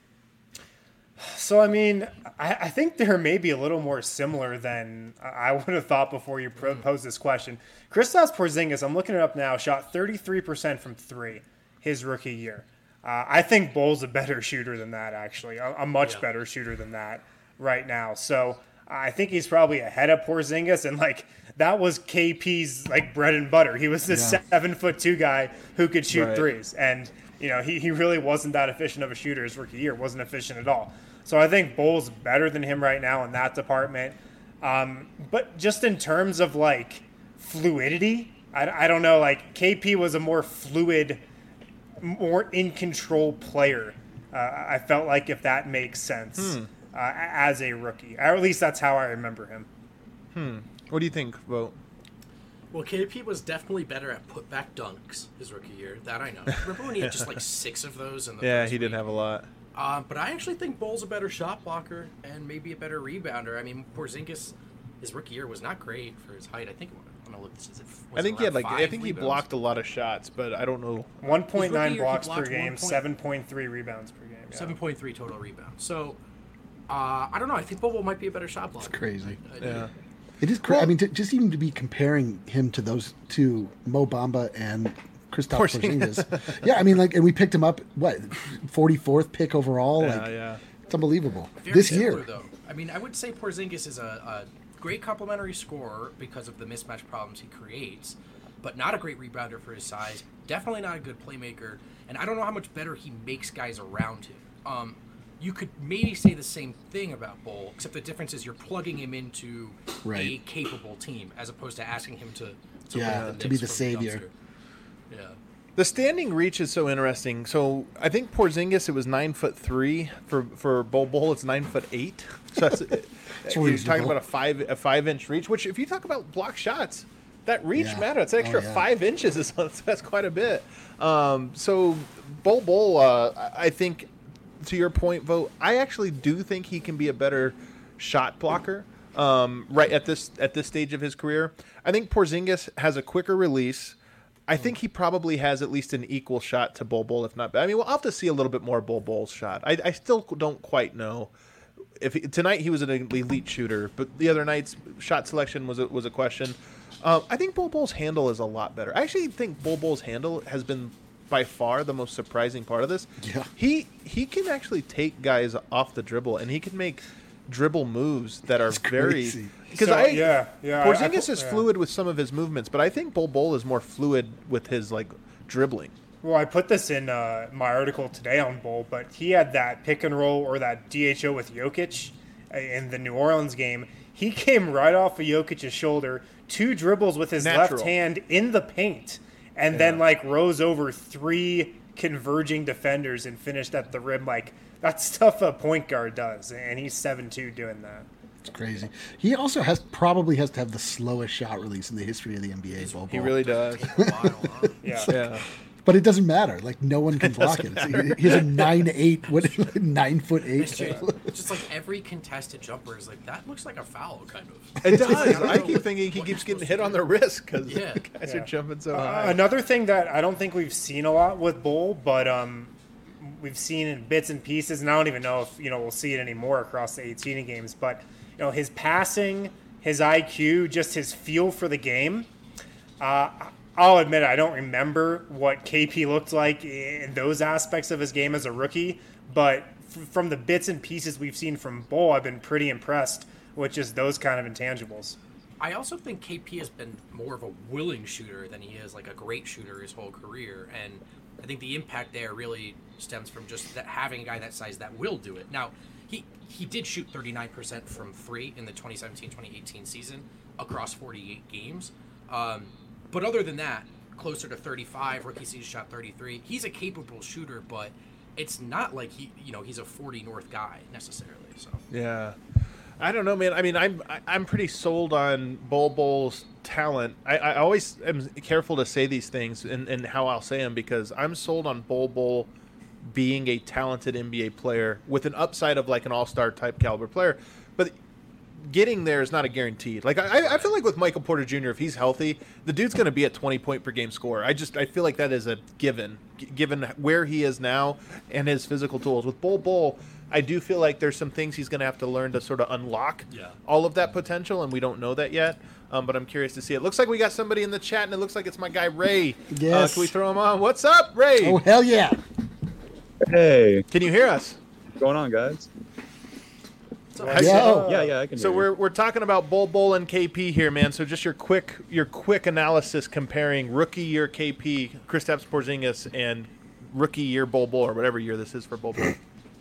So, I mean, I, I think they're maybe a little more similar than I would have thought before you pro- posed this question. Kristaps Porzingis, I'm looking it up now, shot thirty-three percent from three his rookie year. Uh, I think Bull's a better shooter than that, actually, a, a much Yeah. better shooter than that right now. So I think he's probably ahead of Porzingis, and like that was K P's like bread and butter. He was this Yeah. seven foot two guy who could shoot Right. threes, and You know, he, he really wasn't that efficient of a shooter his rookie year. Wasn't efficient at all. So I think Bull's better than him right now in that department. Um, but just in terms of, like, fluidity, I, I don't know. Like, K P was a more fluid, more in-control player. Uh, I felt like, if that makes sense, Hmm. uh, as a rookie. Or at least that's how I remember him. Hmm. What do you think, Vote? Well, K P was definitely better at putback dunks his rookie year. That I know. Remember when he had just like six of those in the Yeah, first he didn't week? have a lot. Uh, but I actually think Bull's a better shot blocker and maybe a better rebounder. I mean, Porzingis, his rookie year was not great for his height. I think I'm gonna look. Is it, was I think it he had around like I five think he rebounds? blocked a lot of shots, but I don't know. one point nine His rookie year, he blocks per blocked game, one point- seven point three rebounds per game. Yeah. seven point three total rebounds. So uh, I don't know. I think Bobo might be a better shot blocker. It's crazy. I, I do. Yeah. It is crazy. Well- I mean, to, just even to be comparing him to those two, Mo Bamba and Kristaps Porzingis. Porzingis. Yeah, I mean, like, and we picked him up, what, forty-fourth pick overall? Yeah, like, yeah. It's unbelievable. Very this similar, year. though. I mean, I would say Porzingis is a, a great complementary scorer because of the mismatch problems he creates, but not a great rebounder for his size. Definitely not a good playmaker, and I don't know how much better he makes guys around him. Um, you could maybe say the same thing about Bull, except the difference is you're plugging him into a Right. capable team as opposed to asking him to, to, Yeah, win the to be Knicks the from savior. dumpster. Yeah. The standing reach is so interesting. So I think Porzingis, it was nine foot three for for Bol Bol. It's nine foot eight. So that's he's talking reasonable. about a five a five inch reach. Which, if you talk about block shots, that reach Yeah. matters. It's an extra Oh, yeah. five inches. Is that's quite a bit. Um, so Bol Bol, uh, I think, to your point, Vote, I actually do think he can be a better shot blocker. Um, right at this at this stage of his career, I think Porzingis has a quicker release. I think he probably has at least an equal shot to Bol Bol, if not. I mean, we'll have to see a little bit more Bol Bol's shot. I, I still don't quite know. If he, tonight he was an elite shooter, but the other nights shot selection was a, was a question. Um, I think Bol Bol's handle is a lot better. I actually think Bol Bol's handle has been by far the most surprising part of this. Yeah. He he can actually take guys off the dribble, and he can make dribble moves that are very crazy. because So, I yeah, yeah, I- I Porzingis pu- is yeah. fluid with some of his movements, but I think Bol Bol is more fluid with his like dribbling. Well, I put this in uh, my article today on Bull, but he had that pick and roll or that D H O with Jokic uh, in the New Orleans game. He came right off of Jokic's shoulder, two dribbles with his Natural. left hand in the paint, and then like rose over three converging defenders and finished at the rim. Like, that's stuff a point guard does, and he's seven two doing that. It's crazy. He also has probably has to have the slowest shot release in the history of the N B A. Bol He Bol. really does. A while, huh? Yeah. Yeah. But it doesn't matter. Like, no one can block it. He- He's a nine eight, what, nine foot eight. It's just, it's just like every contested jumper is like, that looks like a foul, kind of. It does. I don't I know keep what- thinking he what keeps you're getting supposed hit to on do. the wrist because Yeah. the guys Yeah. are jumping so Uh, high. another thing that I don't think we've seen a lot with Bull, but um, we've seen in bits and pieces, and I don't even know if you know we'll see it anymore across the eighteen games. But you know, his passing, his I Q, just his feel for the game. Uh, I'll admit I don't remember what K P looked like in those aspects of his game as a rookie, but f- from the bits and pieces we've seen from Bull, I've been pretty impressed with just those kind of intangibles. I also think K P has been more of a willing shooter than he is like a great shooter his whole career, and I think the impact there really stems from just that having a guy that size that will do it. Now, he he did shoot thirty-nine percent from three in the twenty seventeen twenty eighteen season across forty-eight games. Um, but other than that, closer to thirty-five. Rookie season shot thirty-three. He's a capable shooter, but it's not like he you know he's a forty north guy necessarily. So Yeah, I don't know, man. I mean, I'm I- I'm pretty sold on Bol Bol's talent. I, I always am careful to say these things and, and how I'll say them because I'm sold on Bol Bol being a talented N B A player with an upside of like an all-star type caliber player, but getting there is not a guarantee. Like I, I feel like with Michael Porter Junior, if he's healthy, the dude's going to be a twenty point per game scorer. I just I feel like that is a given, g- given where he is now and his physical tools. With Bol Bol, I do feel like there's some things he's going to have to learn to sort of unlock Yeah. all of that potential, and we don't know that yet. Um, but I'm curious to see. It looks like we got somebody in the chat, and it looks like it's my guy Ray. Yes. Uh, can we throw him on? What's up, Ray? Oh, hell yeah. Hey, Can you hear us? what's going on, guys? Yo. Yeah, yeah, I can. So hear we're you. we're talking about Bol Bol and K P here, man. So just your quick your quick analysis comparing rookie year K P, Kristaps Porzingis, and rookie year Bol Bol or whatever year this is for Bol Bol?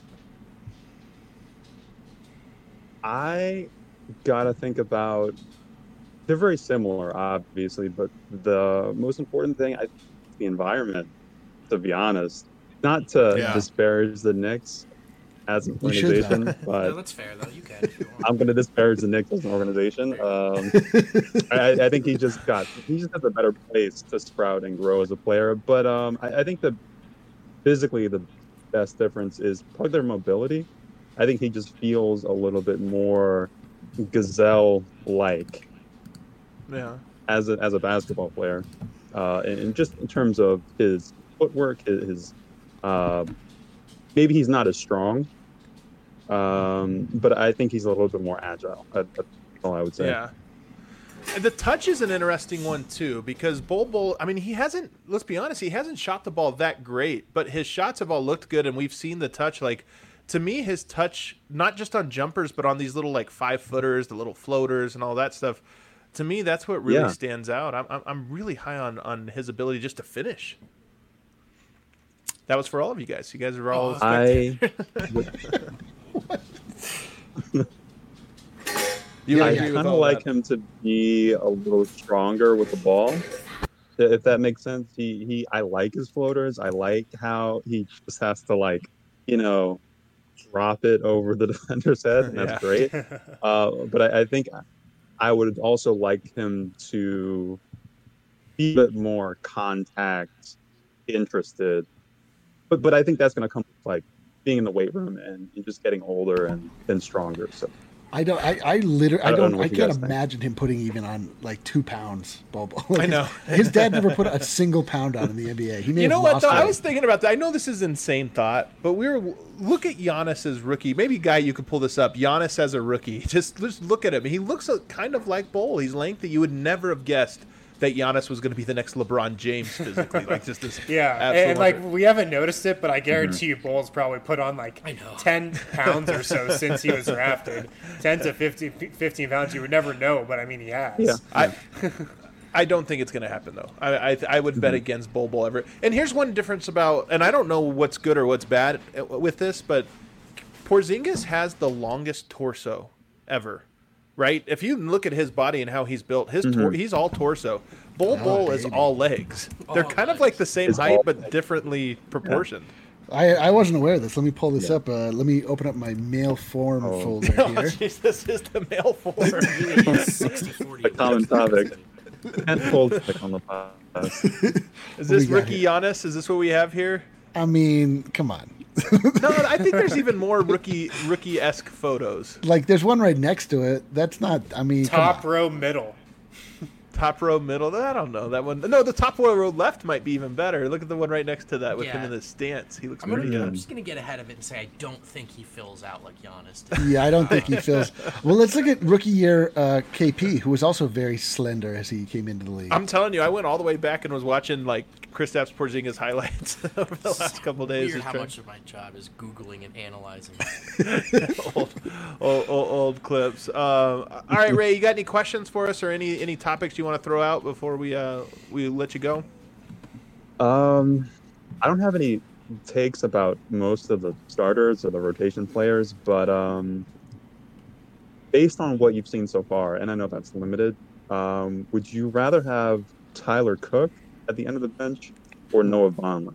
I gotta think about. They're very similar, obviously, but the most important thing, I think, is the environment. To be honest, not to Yeah. disparage the Knicks as an You should, organization, No, but that's fair though. You can if you want. I'm going to disparage the Knicks as an organization. Um, I, I think he just got he just has a better place to sprout and grow as a player. But um, I, I think the physically the best difference is probably their mobility. I think he just feels a little bit more gazelle-like Yeah. as a as a basketball player, uh, and, and just in terms of his footwork, his, his uh, maybe he's not as strong, um, but I think he's a little bit more agile. That, that's all I would say. Yeah. And the touch is an interesting one too, because Bol Bol, I mean, he hasn't, let's be honest, he hasn't shot the ball that great, but his shots have all looked good, and we've seen the touch. Like, to me, his touch, not just on jumpers, but on these little like five footers, the little floaters and all that stuff, to me, that's what really Yeah. stands out. I'm, I'm I'm really high on, on his ability just to finish. That was for all of you guys. You guys are all. I you I agree with kind of all like that? him to be a little stronger with the ball, if that makes sense. He he, I like his floaters. I like how he just has to like, you know, drop it over the defender's head, and that's Yeah. great. Uh, but I, I think I would also like him to be a bit more contact interested. But but I think that's going to come with, like, being in the weight room and, and just getting older and, and stronger. So I don't. I, I literally. I I don't don't. know I what you can't guys think. imagine him putting even on like two pounds. Bol Bol. Like, I know. His, his dad never put a single pound on in the N B A. He may You know have what lost though? I weight. was thinking about that. I know this is insane thought, but we were look at Giannis's rookie. Maybe Guy, you could pull this up. Giannis as a rookie. Just just look at him. He looks a, kind of like Bol. He's lengthy. You would never have guessed that Giannis was going to be the next LeBron James physically. Like just this. Yeah, absolute and like wonder. we haven't noticed it, but I guarantee you, Bol's probably put on like I know. ten pounds or so since he was drafted. Ten to fifteen, fifteen pounds. You would never know, but I mean, he has. yeah, I, I don't think it's going to happen though. I I, I would bet Mhm. against Bol Bol ever. And here's one difference about, and I don't know what's good or what's bad with this, but Porzingis has the longest torso ever, right? If you look at his body and how he's built, his tor- Mhm. he's all torso. Bol Oh, Bol is baby. all legs. They're All kind of legs. like the same It's height all but legs. differently proportioned. I, I wasn't aware of this. Let me pull this Yeah. up. Uh, let me open up my mail form Oh. folder Oh, here. jeez, this is the male form. sixty forty. a common topic. And full stick on the podcast. Is we this got rookie here? Giannis? Is this what we have here? I mean, come on. No, I think there's even more rookie rookie esque photos. Like, there's one right next to it. That's not. I mean, come Top on. row, middle. Top row, middle. I don't know that one. No, the top row left might be even better. Look at the one right next to that with him Yeah. in the stance. He looks I'm, gonna, pretty I'm good. just gonna get ahead of it and say I don't think he fills out like Giannis did. Yeah, I don't think he feels. Well, let's look at rookie year uh, K P, who was also very slender as he came into the league. I'm telling you, I went all the way back and was watching like Kristaps Porzingis highlights over the last couple days. Weird just how trying- much of my job is Googling and analyzing. old, old, old, old clips. Um, all right, Ray, you got any questions for us or any any topics you want to throw out before we uh, we let you go? Um, I don't have any takes about most of the starters or the rotation players, but um, based on what you've seen so far, and I know that's limited, um, would you rather have Tyler Cook at the end of the bench or Noah Vonleh?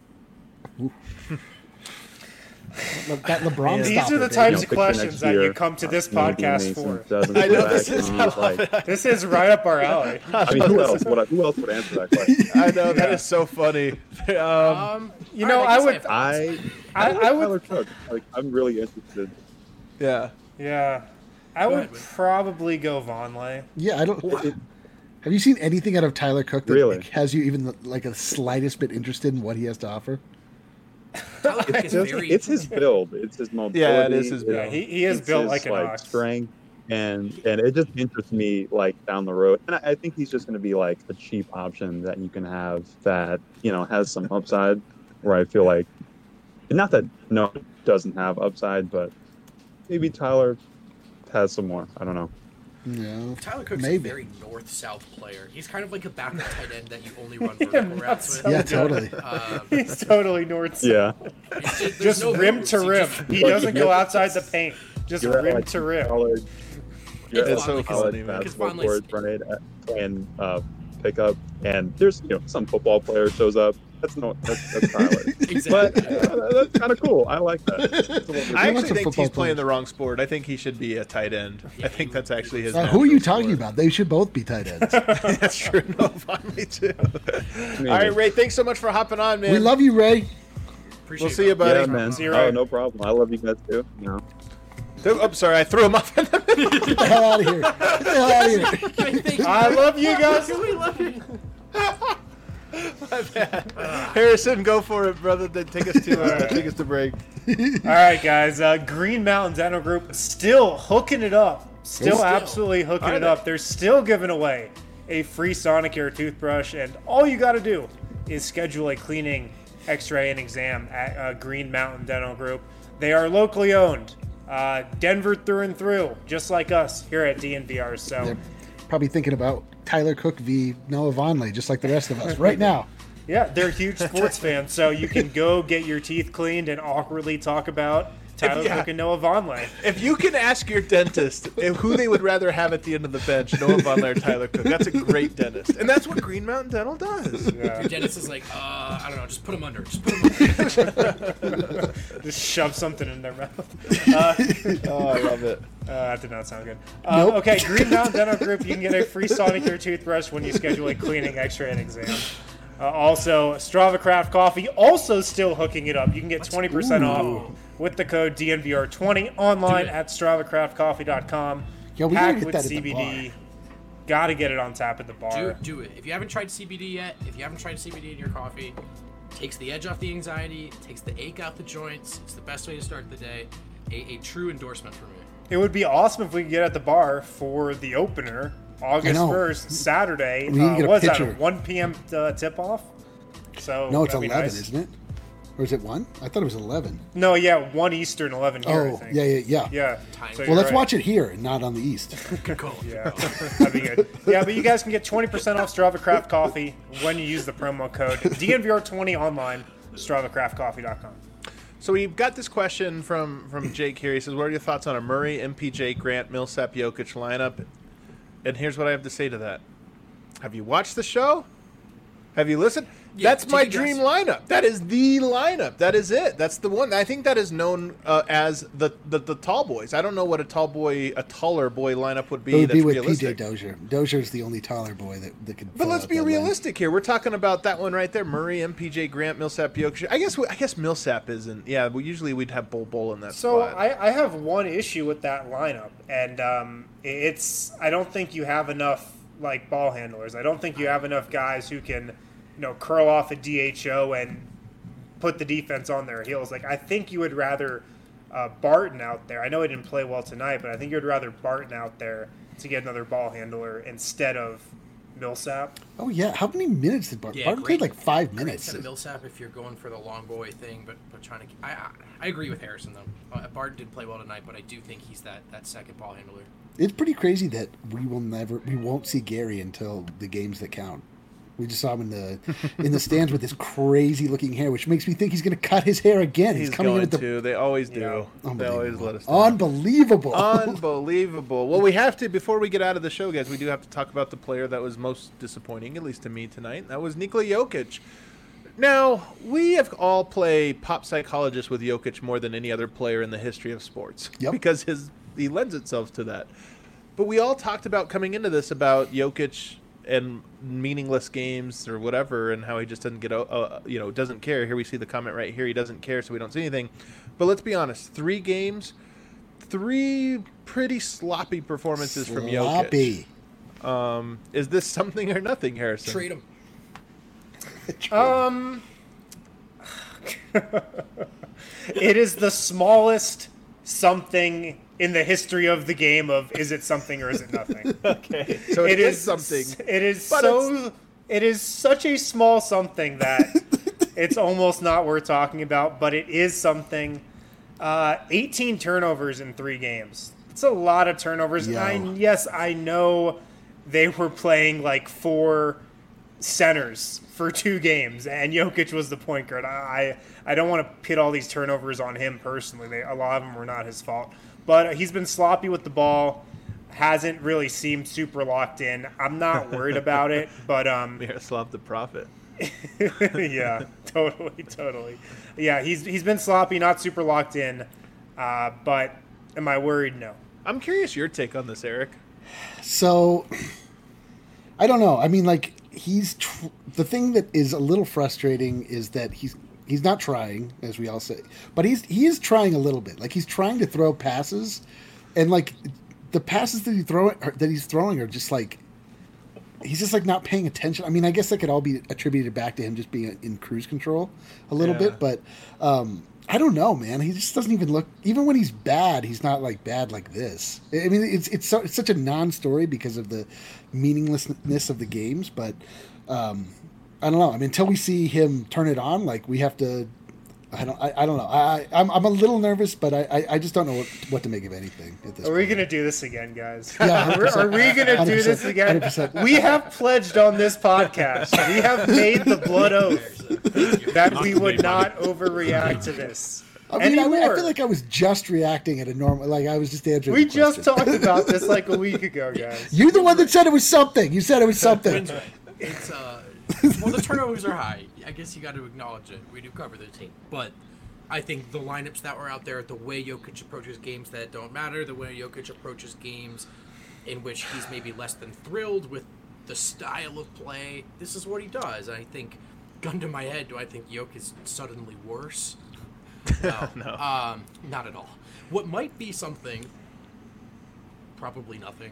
Look, that LeBron These stopper, are the baby. types You know, of picture questions next that you year, come to this uh, maybe podcast Mason for. doesn't I go know back this is. and I he's love like, it. This is right up our alley. I mean, who else? What, who else would answer that question? I know that is so funny. Um, Um, You all know, right, I guess would- have to I, answer. I, like I would. Tyler Cook. Like, I'm really interested. yeah. Yeah, I Go would ahead, Wade. probably go Vonleh. Yeah, I don't. It- Have you seen anything out of Tyler Cook that Really? has you even like a slightest bit interested in what he has to offer? Tyler Cook It's, is just, very it's his build. It's his mobility. Yeah, it is his it's- build. Yeah, he, he is it's built his, like an like ox. strength, and and it just interests me like down the road. And I, I think he's just going to be like a cheap option that you can have that you know has some upside. Where I feel like, not that no doesn't have upside, but maybe Tyler has some more. I don't know. Yeah, Tyler Cook's maybe. a very north-south player. He's kind of like a backup tight end that you only run vertical routes with. Yeah, totally. Um, He's totally north. Yeah. it's just, there's Just no rim moves. to He rim. just- He doesn't go outside the paint. Just You're at, rim like, to rim. college, you're It's at fun, like, college it's- it's basketball fun, like- court, right? uh, Playing uh, pickup, and there's you know some football player shows up. That's no, that's, that's Tyler. Exactly. But uh, that's kind of cool. I like that. It's a little bit I lots actually of think he's football playing players. the wrong sport. I think he should be a tight end. I think that's actually his. Uh, who are you natural talking sport. about? They should both be tight ends. That's true. No, finally too. Maybe. All right, Ray. Thanks so much for hopping on, man. We love you, Ray. Appreciate We'll it, see you, bro. buddy. Yeah, man. See you Oh, right. no problem. I love you guys too. You know. Oh, I'm sorry. I threw him off. Get the hell out of here. Get the hell out of here. Thank you. I love you guys. We love you. My bad. Harrison, go for it, brother. Then take us to uh, take us to break. All right, guys. Uh, Green Mountain Dental Group still hooking it up. Still Still. absolutely hooking Are it they? up. They're still giving away a free Sonicare toothbrush, and all you got to do is schedule a cleaning, X-ray, and exam at uh, Green Mountain Dental Group. They are locally owned, uh, Denver through and through, just like us here at D N V R. So. They're probably thinking about Tyler Cook v. Noah Vonleh, just like the rest of us right now. Yeah, they're huge sports fans, so you can go get your teeth cleaned and awkwardly talk about Tyler yeah. Cook and Noah Vonleh. If you can ask your dentist if who they would rather have at the end of the bench, Noah Vonleh or Tyler Cook, that's a great dentist, and that's what Green Mountain Dental does. Yeah. Your dentist is like, uh, I don't know, just put him under. Just put him under. Just shove something in their mouth. Uh, Oh, I love it. uh, that did not sound good. Uh, Nope. Okay, Green Mountain Dental Group, you can get a free Sonicare toothbrush when you schedule a cleaning, X-ray, and exam. Uh, also, Strava Craft Coffee also still hooking it up. You can get twenty percent off with the code D N V R twenty online Do it. at strava craft coffee dot com. Yeah, we gotta Packed get with that at the C B D. bar. Got to get it on tap at the bar. Do, do it. If you haven't tried C B D yet, if you haven't tried C B D in your coffee, takes the edge off the anxiety, takes the ache out the joints. It's the best way to start the day. A, a true endorsement for me. It would be awesome if we could get at the bar for the opener, August know. first, Saturday. We need to uh, get a what's that, picture. a one p.m. Uh, tip-off? So No, it's that'd be eleven, nice. isn't it? Or is it one? I thought it was eleven. No, yeah, one Eastern, eleven here, I Oh, think. yeah, yeah, yeah. Yeah. Time. So Well, you're let's right. watch it here and not on the East. Good call. Yeah, that'd be good. Yeah, but you guys can get twenty percent off Strava Craft Coffee when you use the promo code D N V R twenty online, strava craft coffee dot com. So we've got this question from from Jake here. He says, "What are your thoughts on a Murray, M P J, Grant, Millsap, Jokic lineup?" And here's what I have to say to that: Have you watched the show? Have you listened? Yeah, That's take my a guess. dream lineup. That is the lineup. That is it. That's the one. I think that is known uh, as the, the the tall boys. I don't know what a tall boy, a taller boy lineup would be. It would that's be with P J realistic. Dozier. Dozier's the only taller boy that, that could. But fill let's out be that lane. realistic here. We're talking about that one right there: Murray, M P J, Grant, Millsap, Jokic. I guess we, I guess Millsap isn't. Yeah, well, usually we'd have Bull Bull in that So spot. I, I have one issue with that lineup, and um, it's I don't think you have enough like ball handlers. I don't think you have enough guys who can, you know, curl off a D H O and put the defense on their heels. Like I think you would rather uh, Barton out there. I know he didn't play well tonight, but I think you'd rather Barton out there to get another ball handler instead of Millsap. Oh yeah, how many minutes did Barton? Yeah, Barton great- played like five Great minutes. set of Millsap if you're going for the long boy thing, but but trying to. I I, I agree with Harrison though. Uh, Barton did play well tonight, but I do think he's that, that second ball handler. It's pretty crazy that we will never, we won't see Gary until the games that count. We just saw him in the in the stands with this crazy looking hair, which makes me think he's going to cut his hair again. He's, He's coming going in with the to. They always do. Yeah. They always let us. Unbelievable. know. Unbelievable. Unbelievable. Well, we have to before we get out of the show, guys. We do have to talk about the player that was most disappointing, at least to me tonight. That was Nikola Jokic. Now we have all played pop psychologist with Jokic more than any other player in the history of sports, Yep. because his he lends itself to that. But we all talked about coming into this about Jokic and meaningless games or whatever, and how he just doesn't get, uh, you know, doesn't care. Here we see the comment right here. He doesn't care, so we don't see anything. But let's be honest. Three games, three pretty sloppy performances from Jokic. Sloppy. Um, is this something or nothing, Harrison? Trade him. Um, it is the smallest something in the history of the game of is it something or is it nothing? Okay, so It it is is something. It is But so. It is such a small something that it's almost not worth talking about. But it is something. Uh, eighteen turnovers in three games. It's a lot of turnovers. Yo. I, yes, I know they were playing like four centers for two games, and Jokic was the point guard. I I don't want to pit all these turnovers on him personally. They, a lot of them were not his fault. But he's been sloppy with the ball, hasn't really seemed super locked in. I'm not worried about it, but um, Miroslav the Prophet. yeah, totally, totally. Yeah, he's he's been sloppy, not super locked in. Uh, but am I worried? No. I'm curious your take on this, Eric. So, I don't know. I mean, like he's tr- the thing that is a little frustrating is that he's he's not trying, as we all say, but he's he is trying a little bit. Like he's trying to throw passes, and like the passes that he throw that he's throwing are just like he's just like not paying attention. I mean, I guess that could all be attributed back to him just being in cruise control a little Yeah. bit, but um, I don't know, man. He just doesn't even look. Even when he's bad, he's not like bad like this. I mean, it's it's so, it's such a non-story because of the meaninglessness of the games. But um, I don't know. I mean, until we see him turn it on, like we have to. I don't. I, I don't know. I I'm I'm a little nervous, but I I, I just don't know what, what to make of anything at this Are we point. going to do this again, guys? Yeah, are, we- are we going to do this again? one hundred percent. We have pledged on this podcast. We have made the blood oath that we would not overreact to this I mean, I, anymore. I feel like I was just reacting at a normal. Like I was just answering. we the just question. talked about this like a week ago, guys. You're the one that said it was something. You said it was something. It's uh, well, the turnovers are high. I guess you got to acknowledge it. We do cover the team, but I think the lineups that were out there, the way Jokic approaches games that don't matter, the way Jokic approaches games in which he's maybe less than thrilled with the style of play, this is what he does. And I think, gun to my head, do I think Jokic is suddenly worse? No, No. Um, not at all. What might be something, probably nothing.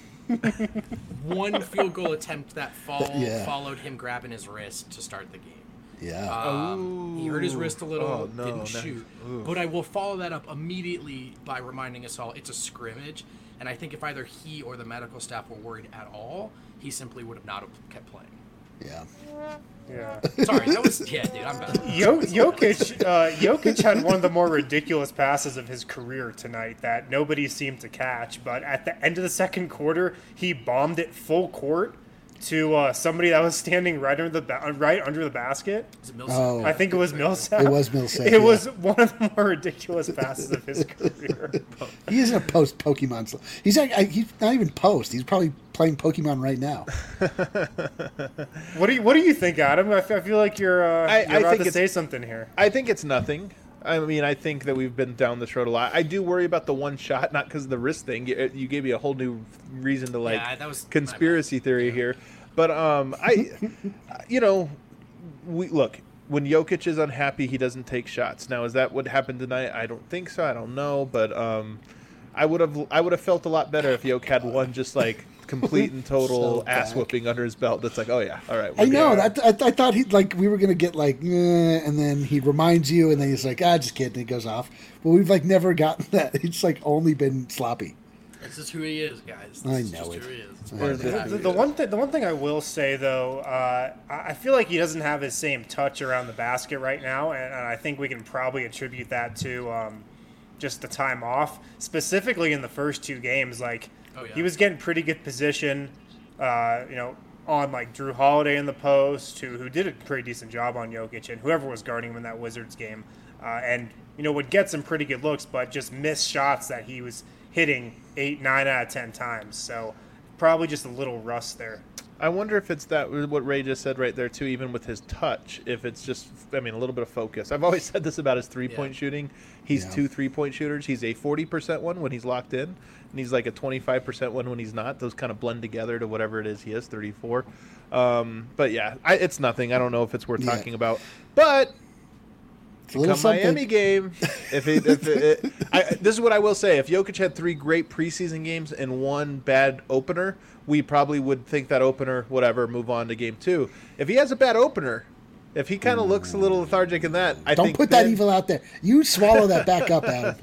One field goal attempt that fall, Yeah. followed him grabbing his wrist to start the game. Yeah. Um, he hurt his wrist a little, Oh, no, didn't no. shoot. Ooh. But I will follow that up immediately by reminding us all it's a scrimmage. And I think if either he or the medical staff were worried at all, he simply would have not have kept playing. Yeah. Yeah. Sorry, that was yeah, dude. I'm bad. Yo- Jokic, uh, Jokic had one of the more ridiculous passes of his career tonight that nobody seemed to catch. But at the end of the second quarter, he bombed it full court to uh, somebody that was standing right under the ba- right under the basket. Is it Millsap? Oh. I think it was Millsap. It was Millsap, It yeah. was one of the more ridiculous passes of his career. He isn't a post Pokemon. sl- He's like, I, he's not even post. He's probably playing Pokemon right now. What do you What do you think, Adam? I, f- I feel like you're, uh, I- you're I about think to it's- say something here. I think it's nothing. I mean, I think that we've been down this road a lot. I do worry about the one shot, not because of the wrist thing. You, you gave me a whole new reason to like Yeah, that was my conspiracy theory here. But um, I, you know, we look when Jokic is unhappy, he doesn't take shots. Now, is that what happened tonight? I don't think so. I don't know, but um, I would have I would have felt a lot better if Jokic had one just like complete and total So ass back. whooping under his belt. That's like, oh yeah, all right. I we're know. good. That, I, I thought he like we were gonna get like, eh, and then he reminds you, and then he's like, ah, just kidding. And he goes off. But we've like never gotten that. It's like only been sloppy. This is who he is, guys. This I is know just it. who he is. I Or is know. it- The, the one thing, the one thing I will say though, uh, I I feel like he doesn't have his same touch around the basket right now, and, and I think we can probably attribute that to um, just the time off. Specifically in the first two games, like Oh, yeah. he was getting pretty good position, uh, you know, on like Drew Holiday in the post, who who did a pretty decent job on Jokic, and whoever was guarding him in that Wizards game, uh, and you know would get some pretty good looks, but just missed shots that he was hitting eight, nine out of ten times. So probably just a little rust there. I wonder if it's that what Ray just said right there too. Even with his touch, if it's just, I mean, a little bit of focus. I've always said this about his three-point Yeah. shooting. He's Yeah. two three-point shooters. He's a forty percent one when he's locked in, and he's like a twenty-five percent one when he's not. Those kind of blend together to whatever it is he is, thirty-four. Um, but yeah, I, it's nothing. I don't know if it's worth Yeah. talking about, but. It's a little Come something. Miami game. If it, if it, it I, this is what I will say: if Jokic had three great preseason games and one bad opener, we probably would think that opener, whatever, move on to game two. If he has a bad opener, if he kind of looks a little lethargic in that, I Don't think put that then- evil out there. You swallow that back up, Adam.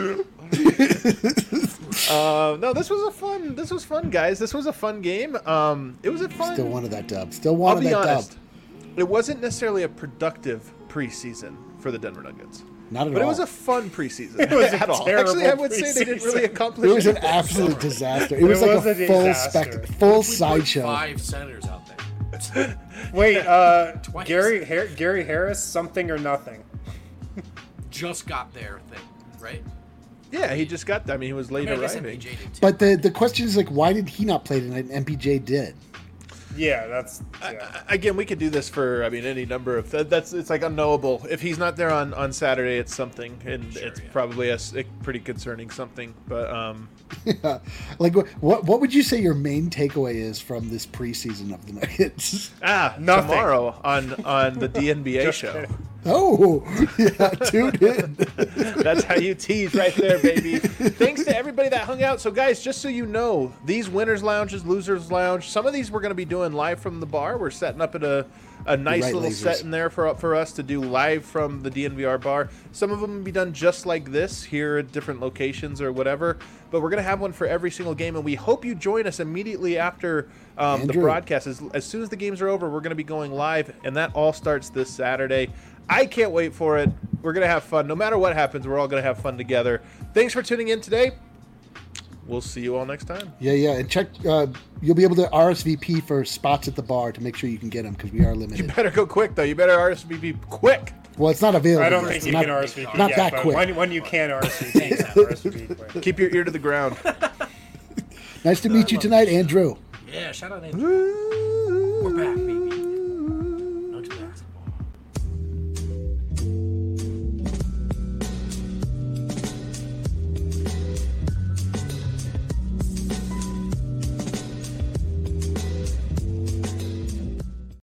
Uh, no, this was a fun. This was fun, guys. This was a fun game. Um, it was a fun. Still wanted that dub. Still I'll wanted be that honest. dub. It wasn't necessarily a productive preseason for the Denver Nuggets. Not at But all. it was a fun preseason. It was a at all. terrible Actually, I would say they didn't really preseason. accomplish It was an anything. absolute disaster. It was It like was a, a full disaster. spect, full We put sideshow. Five senators out there. Wait, uh, Twice. Gary Har- Gary Harris, something or nothing. Just got their thing, right? Yeah, he just got. I mean, he was I late mean, I guess arriving. M P J did too. But the the question is like, why did he not play tonight and M P J did? Yeah, that's yeah. Again, we could do this for. I mean, any number of. That, that's it's like unknowable. If he's not there on, on Saturday, it's something, and Sure, it's yeah. probably a, s- a pretty concerning something. But um, Like, what what what would you say your main takeaway is from this preseason of the Nuggets? ah, Nothing. tomorrow on on the D N B A Just show. kidding. Oh, yeah, tune in. That's how you tease right there, baby. Thanks to everybody that hung out. So, guys, just so you know, these winners' lounges, losers' lounge, some of these we're going to be doing live from the bar. We're setting up at a, a nice Right, little lasers. set in there for for us to do live from the D N V R bar. Some of them will be done just like this here at different locations or whatever. But we're going to have one for every single game, and we hope you join us immediately after um, the Andrew. broadcast. As, as soon as the games are over, we're going to be going live, and that all starts this Saturday. I can't wait for it. We're going to have fun. No matter what happens, we're all going to have fun together. Thanks for tuning in today. We'll see you all next time. Yeah, yeah, and check. Uh, you'll be able to R S V P for spots at the bar to make sure you can get them because we are You limited. better go quick, though. You better R S V P quick. Well, it's not available. I don't yet. think It's you not, can R S V P Not yet, that but quick. When, when you can R S V P, yeah, R S V P quick. Keep your ear to the ground. Nice to meet you tonight, Andrew. Yeah, shout out Andrew. We're back, baby.